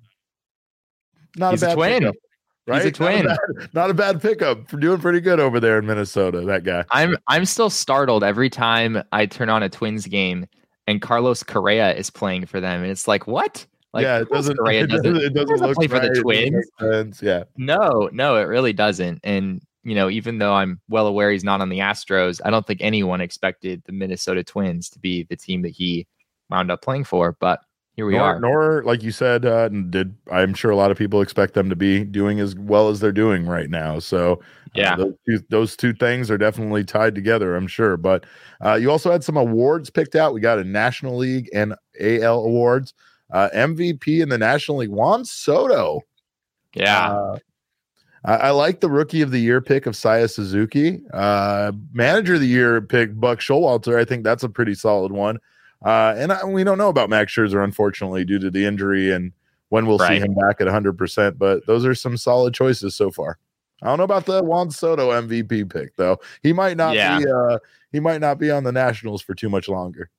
not He's a a bad twin. pickup, right? He's a twin. Not a bad, not a bad pickup. For doing pretty good over there in Minnesota. That guy. I'm I'm still startled every time I turn on a Twins game and Carlos Correa is playing for them, and it's like, what? Like, yeah, it doesn't. Correa It doesn't, doesn't, it doesn't doesn't look play for right. the It doesn't Twins. make sense. Yeah. No, no, it really doesn't. And you know, even though I'm well aware he's not on the Astros, I don't think anyone expected the Minnesota Twins to be the team that he wound up playing for. But here we nor, are. Nor, like you said, uh, did I'm sure a lot of people expect them to be doing as well as they're doing right now. So Yeah. uh, those, two, those two things are definitely tied together, I'm sure. But uh, you also had some awards picked out. We got a National League and A L awards. Uh, M V P in the National League, Juan Soto. Yeah. Uh, I, I like the Rookie of the Year pick of Saya Suzuki. Uh, Manager of the Year pick Buck Showalter. I think that's a pretty solid one. Uh, and I, we don't know about Max Scherzer, unfortunately, due to the injury and when we'll Right. see him back at one hundred percent. But those are some solid choices so far. I don't know about the Juan Soto M V P pick, though. He might not Yeah. be. Uh, he might not be on the Nationals for too much longer.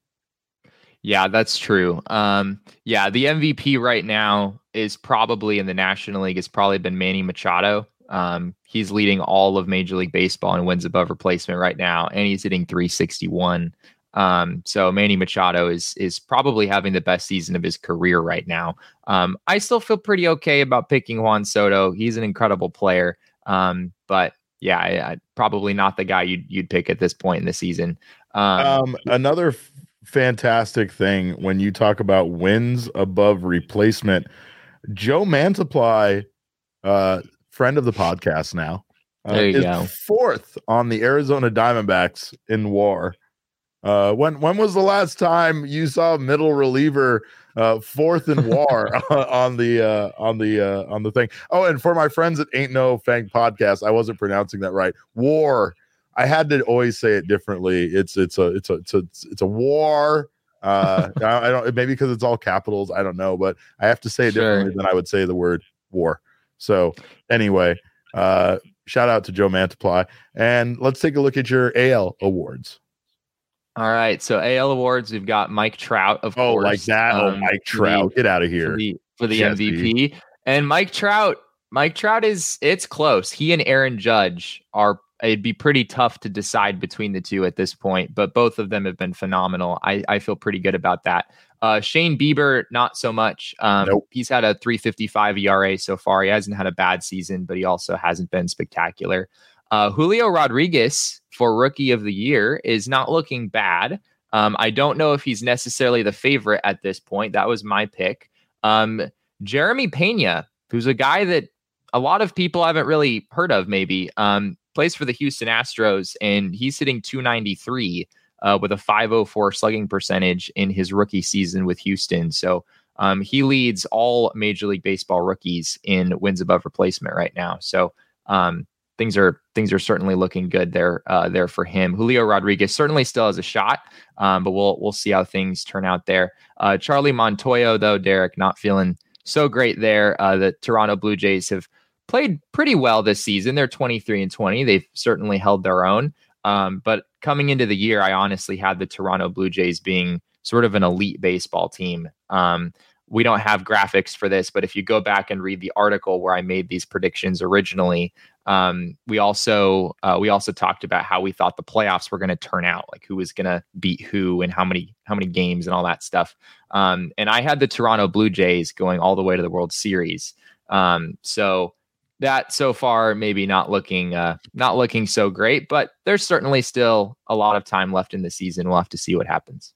Yeah, that's true. Um, yeah, the M V P right now is probably in the National League. It's probably been Manny Machado. Um, he's leading all of Major League Baseball in wins above replacement right now, and he's hitting three sixty-one. Um, so Manny Machado is is probably having the best season of his career right now. Um, I still feel pretty okay about picking Juan Soto. He's an incredible player. Um, but yeah, I, I, probably not the guy you'd you'd pick at this point in the season. Um, Um, another f- fantastic thing when you talk about wins above replacement, Joe Mantiply, uh, friend of the podcast now, uh, There you is go. fourth on the Arizona Diamondbacks in W A R. Uh, when when was the last time you saw a middle reliever uh, fourth in W A R on the uh, on the uh, on the thing? Oh, and for my friends that ain't no Fang podcast, I wasn't pronouncing that right. War. I had to always say it differently. It's it's a it's a it's a it's a war. Uh, I, I don't maybe because it's all capitals. I don't know, but I have to say it Sure. differently than I would say the word war. So anyway, uh, shout out to Joe Mantiply, and let's take a look at your A L awards. All right, so A L awards, we've got Mike Trout, of Oh, course. like that. Oh, um, Mike for Trout, get out of the, here. for the for the Jesse. M V P, and Mike Trout. Mike Trout is it's close. He and Aaron Judge are. It'd be pretty tough to decide between the two at this point, but both of them have been phenomenal. I, I feel pretty good about that. Uh, Shane Bieber, not so much. Um, Nope. He's had a three fifty-five E R A so far. He hasn't had a bad season, but he also hasn't been spectacular. Uh, Julio Rodriguez for Rookie of the Year is not looking bad. Um, I don't know if he's necessarily the favorite at this point. That was my pick. Um, Jeremy Pena, who's a guy that a lot of people haven't really heard of. Maybe um, plays for the Houston Astros, and he's hitting two ninety-three uh, with a five oh four slugging percentage in his rookie season with Houston. So um, he leads all Major League Baseball rookies in wins above replacement right now. So um, things are things are certainly looking good there uh, there for him. Julio Rodriguez certainly still has a shot, um, but we'll we'll see how things turn out there. Uh, Charlie Montoyo, though, Derek, not feeling so great there. Uh, the Toronto Blue Jays have played pretty well this season. They're twenty-three and twenty. They've certainly held their own. Um, but coming into the year, I honestly had the Toronto Blue Jays being sort of an elite baseball team. Um, we don't have graphics for this, but if you go back and read the article where I made these predictions originally, um, we also uh, we also talked about how we thought the playoffs were going to turn out, like who was going to beat who and how many how many games and all that stuff. Um, and I had the Toronto Blue Jays going all the way to the World Series. Um, so that so far maybe not looking uh, not looking so great, but there's certainly still a lot of time left in the season. We'll have to see what happens.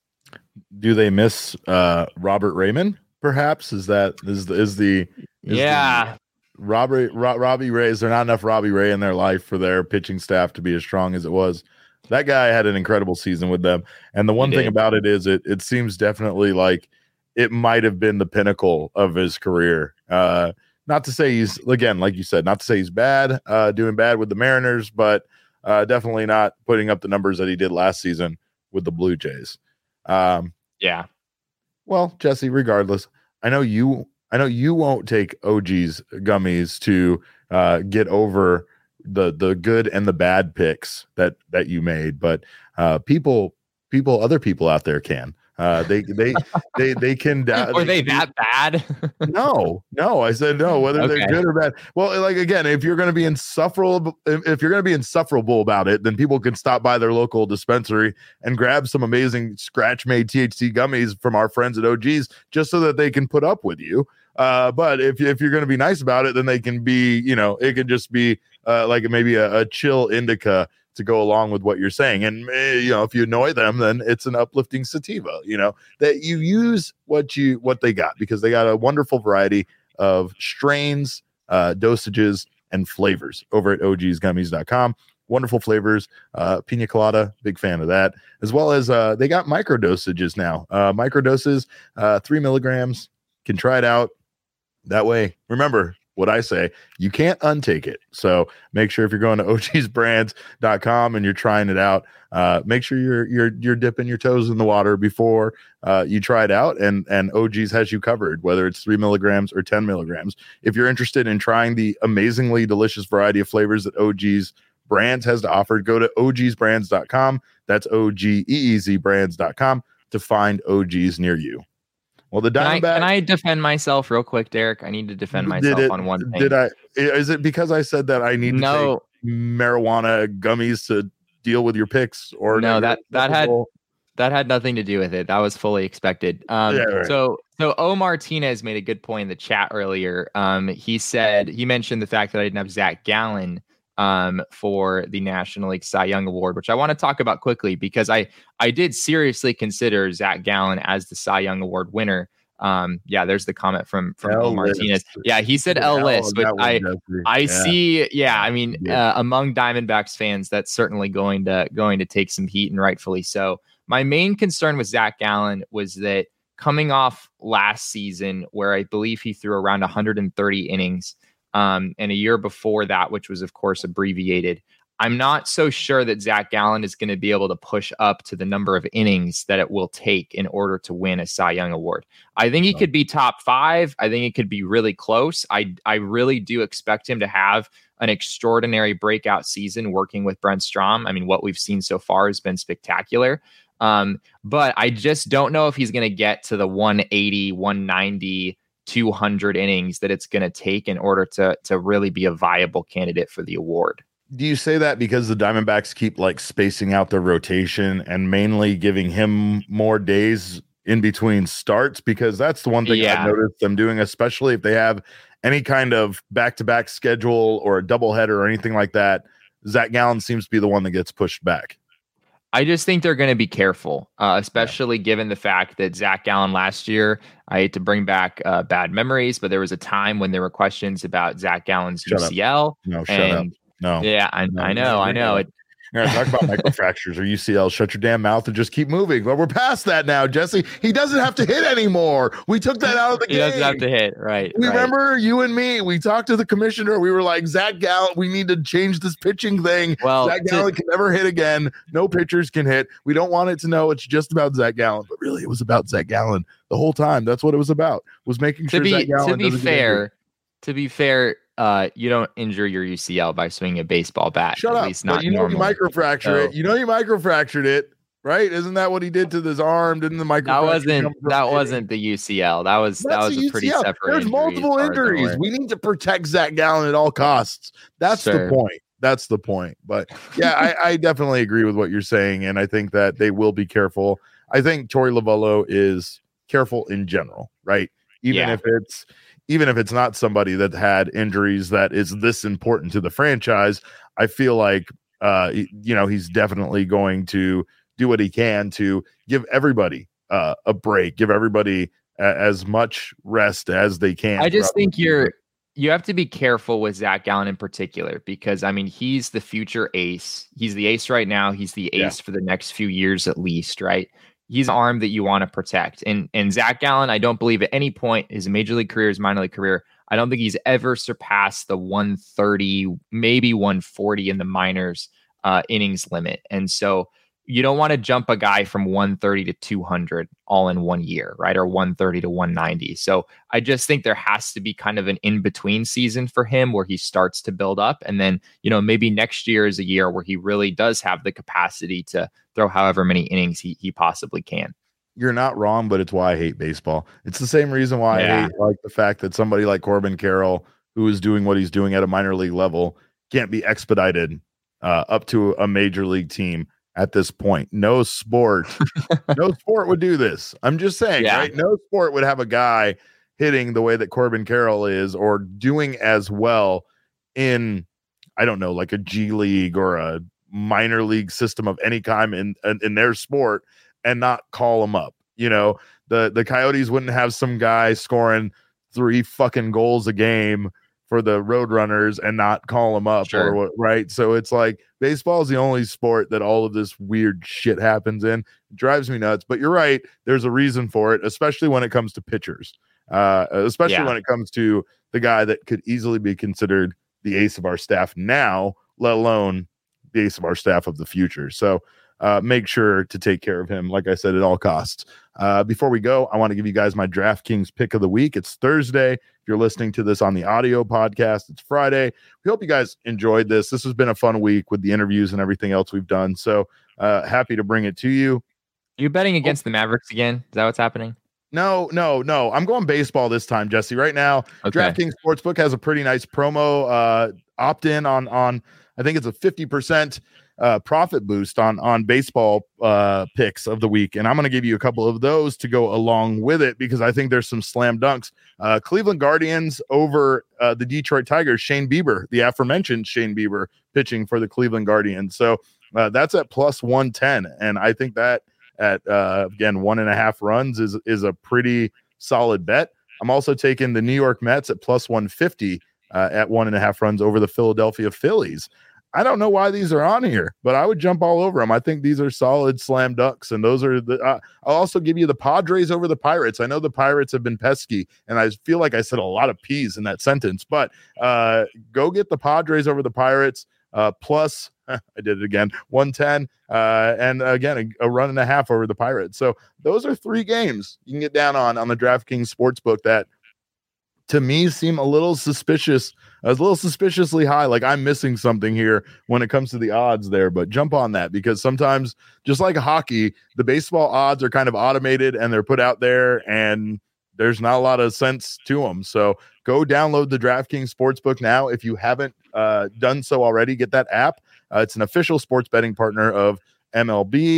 Do they miss uh, Robert Raymond? Perhaps is that is the is the is yeah. The Robbie Ro- Robbie Ray. Is there not enough Robbie Ray in their life for their pitching staff to be as strong as it was? That guy had an incredible season with them, and the one He thing did. about it is it it seems definitely like it might have been the pinnacle of his career. Uh, not to say he's again, like you said, not to say he's bad, uh, doing bad with the Mariners, but uh, definitely not putting up the numbers that he did last season with the Blue Jays. Um, Yeah. Well, Jesse, regardless, I know you I know you won't take O G's gummies to uh, get over the the good and the bad picks that that you made, but uh, people people other people out there can. Uh, they they they they can. Uh, Were they that bad? No, no. I said no. Whether Okay. they're good or bad. Well, like again, if you're going to be insufferable, if if you're going to be insufferable about it, then people can stop by their local dispensary and grab some amazing scratch-made T H C gummies from our friends at O G's, just so that they can put up with you. Uh, but if if you're going to be nice about it, then they can be, you know, it can just be uh, like maybe a, a chill indica to go along with what you're saying. And, eh, you know, if you annoy them, then it's an uplifting sativa, you know, that you use what you, what they got, because they got a wonderful variety of strains, uh, dosages, and flavors over at O Gs gummies dot com. Wonderful flavors, uh, pina colada, big fan of that, as well as uh, they got micro dosages now. Uh, micro doses, uh, three milligrams, can try it out. That way, remember what I say, you can't untake it. So make sure if you're going to O Gs brands dot com and you're trying it out, uh, make sure you're you're you're dipping your toes in the water before uh, you try it out. And and O Gs has you covered, whether it's three milligrams or ten milligrams. If you're interested in trying the amazingly delicious variety of flavors that O Gs Brands has to offer, go to O Gs brands dot com. That's O G E E Z brands dot com to find O Gs near you. Well, the Can I, Diamondback. can I defend myself real quick, Derek? I need to defend myself did it, on one thing. Did I? Is it because I said that I need No. to take marijuana gummies to deal with your picks? Or No, that that had Well, that had nothing to do with it. That was fully expected. Um, Yeah, right. So so O Martinez made a good point in the chat earlier. Um, he said he mentioned the fact that I didn't have Zach Gallen um, for the National League Cy Young Award, which I want to talk about quickly because I I did seriously consider Zach Gallen as the Cy Young Award winner. Um, yeah, there's the comment from from O L Martinez. list. Yeah, he said L L list, on but that one, I Jesse. I Yeah. see. Yeah, I mean, Yeah. uh, among Diamondbacks fans, that's certainly going to going to take some heat, and rightfully so. My main concern with Zach Gallen was that coming off last season, where I believe he threw around one hundred thirty innings, um, and a year before that, which was of course abbreviated, I'm not so sure that Zach Gallen is going to be able to push up to the number of innings that it will take in order to win a Cy Young Award. I think he could be top five. I think it could be really close. I I really do expect him to have an extraordinary breakout season working with Brent Strom. I mean, what we've seen so far has been spectacular. Um, but I just don't know if he's going to get to the one eighty, one ninety, two hundred innings that it's going to take in order to to really be a viable candidate for the award. Do you say that because the Diamondbacks keep like spacing out their rotation and mainly giving him more days in between starts? Because that's the one thing Yeah. I've noticed them doing, especially if they have any kind of back-to-back schedule or a doubleheader or anything like that. Zach Gallen seems to be the one that gets pushed back. I just think they're going to be careful, uh, especially yeah. given the fact that Zach Gallen last year, I hate to bring back uh, bad memories, but there was a time when there were questions about Zach Gallen's shut U C L. Up. No, shut and, up. No. Yeah, I, no, I know, I know. It, You're going to talk about microfractures or U C L. Shut your damn mouth and just keep moving. But we're past that now, Jesse. He doesn't have to hit anymore. We took that out of the he game. He doesn't have to hit, right. We right. remember you and me. We talked to the commissioner. We were like, Zach Gallen, we need to change this pitching thing. Well, Zach Gallen can never hit again. No pitchers can hit. We don't want it to know it's just about Zach Gallen. But really, it was about Zach Gallen the whole time. That's what it was about, was making sure to be, Zach Gallen To be fair, to be fair, Uh, you don't injure your U C L by swinging a baseball bat. Shut at up. Least not you know normally. you microfracture so, it. You know you microfractured it, right? Isn't that what he did to his arm? Didn't the microfracture? That wasn't that wasn't the U C L. That was That's that was a pretty U C L. separate. There's multiple injuries. We need to protect Zach Gallen at all costs. That's sure. the point. That's the point. But yeah, I, I definitely agree with what you're saying, and I think that they will be careful. I think Torey Lovullo is careful in general, right? Even yeah. if it's even if it's not somebody that had injuries that is this important to the franchise, I feel like uh, you know, he's definitely going to do what he can to give everybody uh, a break, give everybody a- as much rest as they can. I just think you're you have to be careful with Zach Gallen in particular, because I mean, he's the future ace. He's the ace right now. He's the ace yeah. for the next few years at least, right? He's an arm that you want to protect. And and Zach Gallen, I don't believe at any point his major league career, his minor league career, I don't think he's ever surpassed the one thirty, maybe one forty in the minors uh, innings limit. And so you don't want to jump a guy from one thirty to two hundred all in one year, right? Or one thirty to one ninety. So I just think there has to be kind of an in-between season for him where he starts to build up. And then, you know, maybe next year is a year where he really does have the capacity to throw however many innings he, he possibly can. You're not wrong, but it's why I hate baseball. It's the same reason why Yeah. I hate like the fact that somebody like Corbin Carroll, who is doing what he's doing at a minor league level, can't be expedited uh, up to a major league team at this point. No sport, no sport would do this. I'm just saying, Yeah. right? No sport would have a guy hitting the way that Corbin Carroll is, or doing as well in, I don't know, like a G League or a minor league system of any kind in, in, in their sport, and not call them up. You know, the, the Coyotes wouldn't have some guy scoring three fucking goals a game for the Roadrunners and not call them up. Sure. Or what, right? So it's like baseball is the only sport that all of this weird shit happens in. It drives me nuts. But you're right. There's a reason for it, especially when it comes to pitchers, uh, especially Yeah. when it comes to the guy that could easily be considered the ace of our staff now, let alone the ace of our staff of the future. So uh, make sure to take care of him, like I said, at all costs. Uh, before we go, I want to give you guys my DraftKings pick of the week. It's Thursday. If you're listening to this on the audio podcast, it's Friday. We hope you guys enjoyed this. This has been a fun week with the interviews and everything else we've done. So uh, happy to bring it to you. Are you betting against oh. the Mavericks again? Is that what's happening? No, no, no. I'm going baseball this time, Jesse. Right now, okay. DraftKings Sportsbook has a pretty nice promo uh, opt-in on, on, I think it's a fifty percent uh, profit boost on, on baseball uh, picks of the week. And I'm going to give you a couple of those to go along with it, because I think there's some slam dunks. Uh, Cleveland Guardians over uh, the Detroit Tigers, Shane Bieber, the aforementioned Shane Bieber, pitching for the Cleveland Guardians. So uh, that's at plus one ten. And I think that at, uh, again, one and a half runs is, is a pretty solid bet. I'm also taking the New York Mets at plus one fifty uh, at one and a half runs over the Philadelphia Phillies. I don't know why these are on here, but I would jump all over them. I think these are solid slam dunks, and those are the. Uh, I'll also give you the Padres over the Pirates. I know the Pirates have been pesky, and I feel like I said a lot of P's in that sentence, but uh, go get the Padres over the Pirates uh, plus. I did it again. one ten, uh, and again a, a run and a half over the Pirates. So those are three games you can get down on on the DraftKings Sportsbook that, to me, seem a little suspicious. I was a little suspiciously high. Like I'm missing something here when it comes to the odds there, but jump on that, because sometimes, just like hockey, the baseball odds are kind of automated and they're put out there, and there's not a lot of sense to them. So go download the DraftKings Sportsbook now. If you haven't uh, done so already, get that app. Uh, it's an official sports betting partner of M L B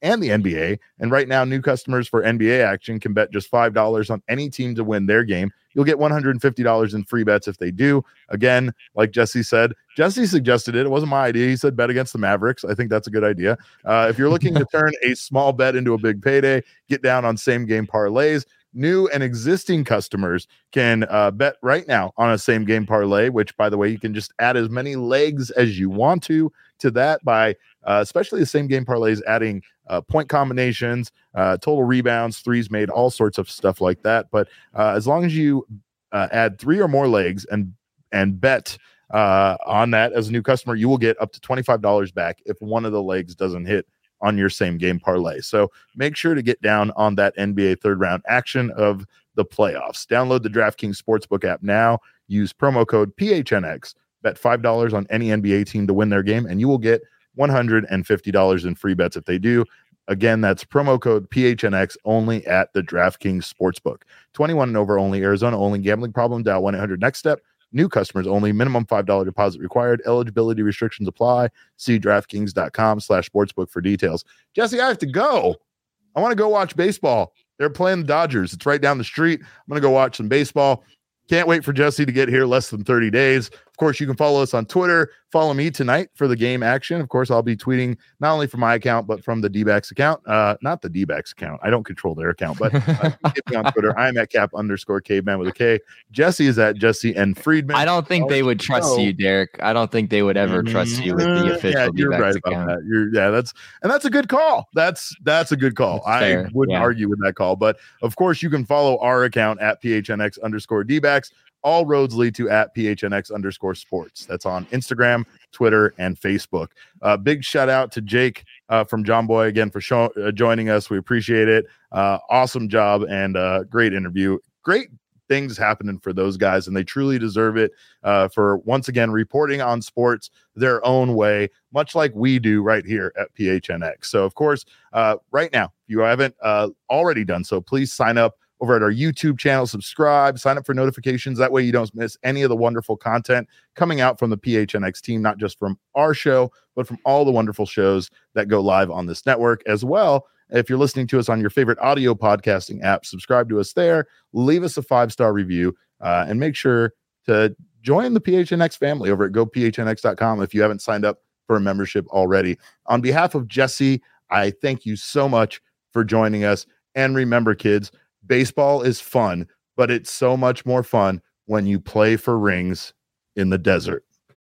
and the N B A. And right now, new customers for N B A action can bet just five dollars on any team to win their game. You'll get one hundred fifty dollars in free bets if they do. Again, like Jesse said, Jesse suggested it. It wasn't my idea. He said bet against the Mavericks. I think that's a good idea. Uh, if you're looking to turn a small bet into a big payday, get down on same game parlays. New and existing customers can uh, bet right now on a same game parlay, which, by the way, you can just add as many legs as you want to to that by uh, especially the same game parlays, adding uh, point combinations, uh, total rebounds, threes made, all sorts of stuff like that. But uh, as long as you uh, add three or more legs and and bet uh, on that as a new customer, you will get up to twenty-five dollars back if one of the legs doesn't hit on your same game parlay. So make sure to get down on that N B A third round action of the playoffs. Download the DraftKings Sportsbook app now. Use promo code P H N X. Bet five dollars on any N B A team to win their game, and you will get one hundred fifty dollars in free bets if they do. Again, that's promo code P H N X only at the DraftKings Sportsbook. twenty-one and over only, Arizona only. Gambling problem? Dial one eight hundred next step. New customers only. Minimum five dollars deposit required. Eligibility restrictions apply. See DraftKings.com slash sportsbook for details. Jesse, I have to go. I want to go watch baseball. They're playing the Dodgers. It's right down the street. I'm going to go watch some baseball. Can't wait for Jesse to get here less than thirty days. Of course, you can follow us on Twitter. Follow me tonight for the game action. Of course, I'll be tweeting not only from my account, but from the D-backs account. Uh, not the D-backs account. I don't control their account, but uh, get me on Twitter. I'm at cap underscore caveman with a K. Jesse is at Jesse and Friedman. I don't think they would trust you, Derek. I don't think they would ever trust you with the official yeah, you're D-backs right account. about that. You're, yeah, that's and that's a good call. That's that's a good call. That's I fair. wouldn't Yeah. argue with that call. But of course, you can follow our account at P H N X underscore D-backs. All roads lead to at P H N X underscore sports. That's on Instagram, Twitter, and Facebook. Uh, big shout out to Jake uh, from John Boy again for show, uh, joining us. We appreciate it. Uh, awesome job and uh, great interview. Great things happening for those guys, and they truly deserve it uh, for once again reporting on sports their own way, much like we do right here at P H N X. So, of course, uh, right now, if you haven't uh, already done so, please sign up over at our YouTube channel, subscribe, sign up for notifications. That way you don't miss any of the wonderful content coming out from the P H N X team, not just from our show, but from all the wonderful shows that go live on this network as well. If you're listening to us on your favorite audio podcasting app, subscribe to us there, leave us a five-star review, uh, and make sure to join the P H N X family over at go P H N X dot com if you haven't signed up for a membership already. On behalf of Jesse, I thank you so much for joining us. And remember, kids, baseball is fun, but it's so much more fun when you play for rings in the desert.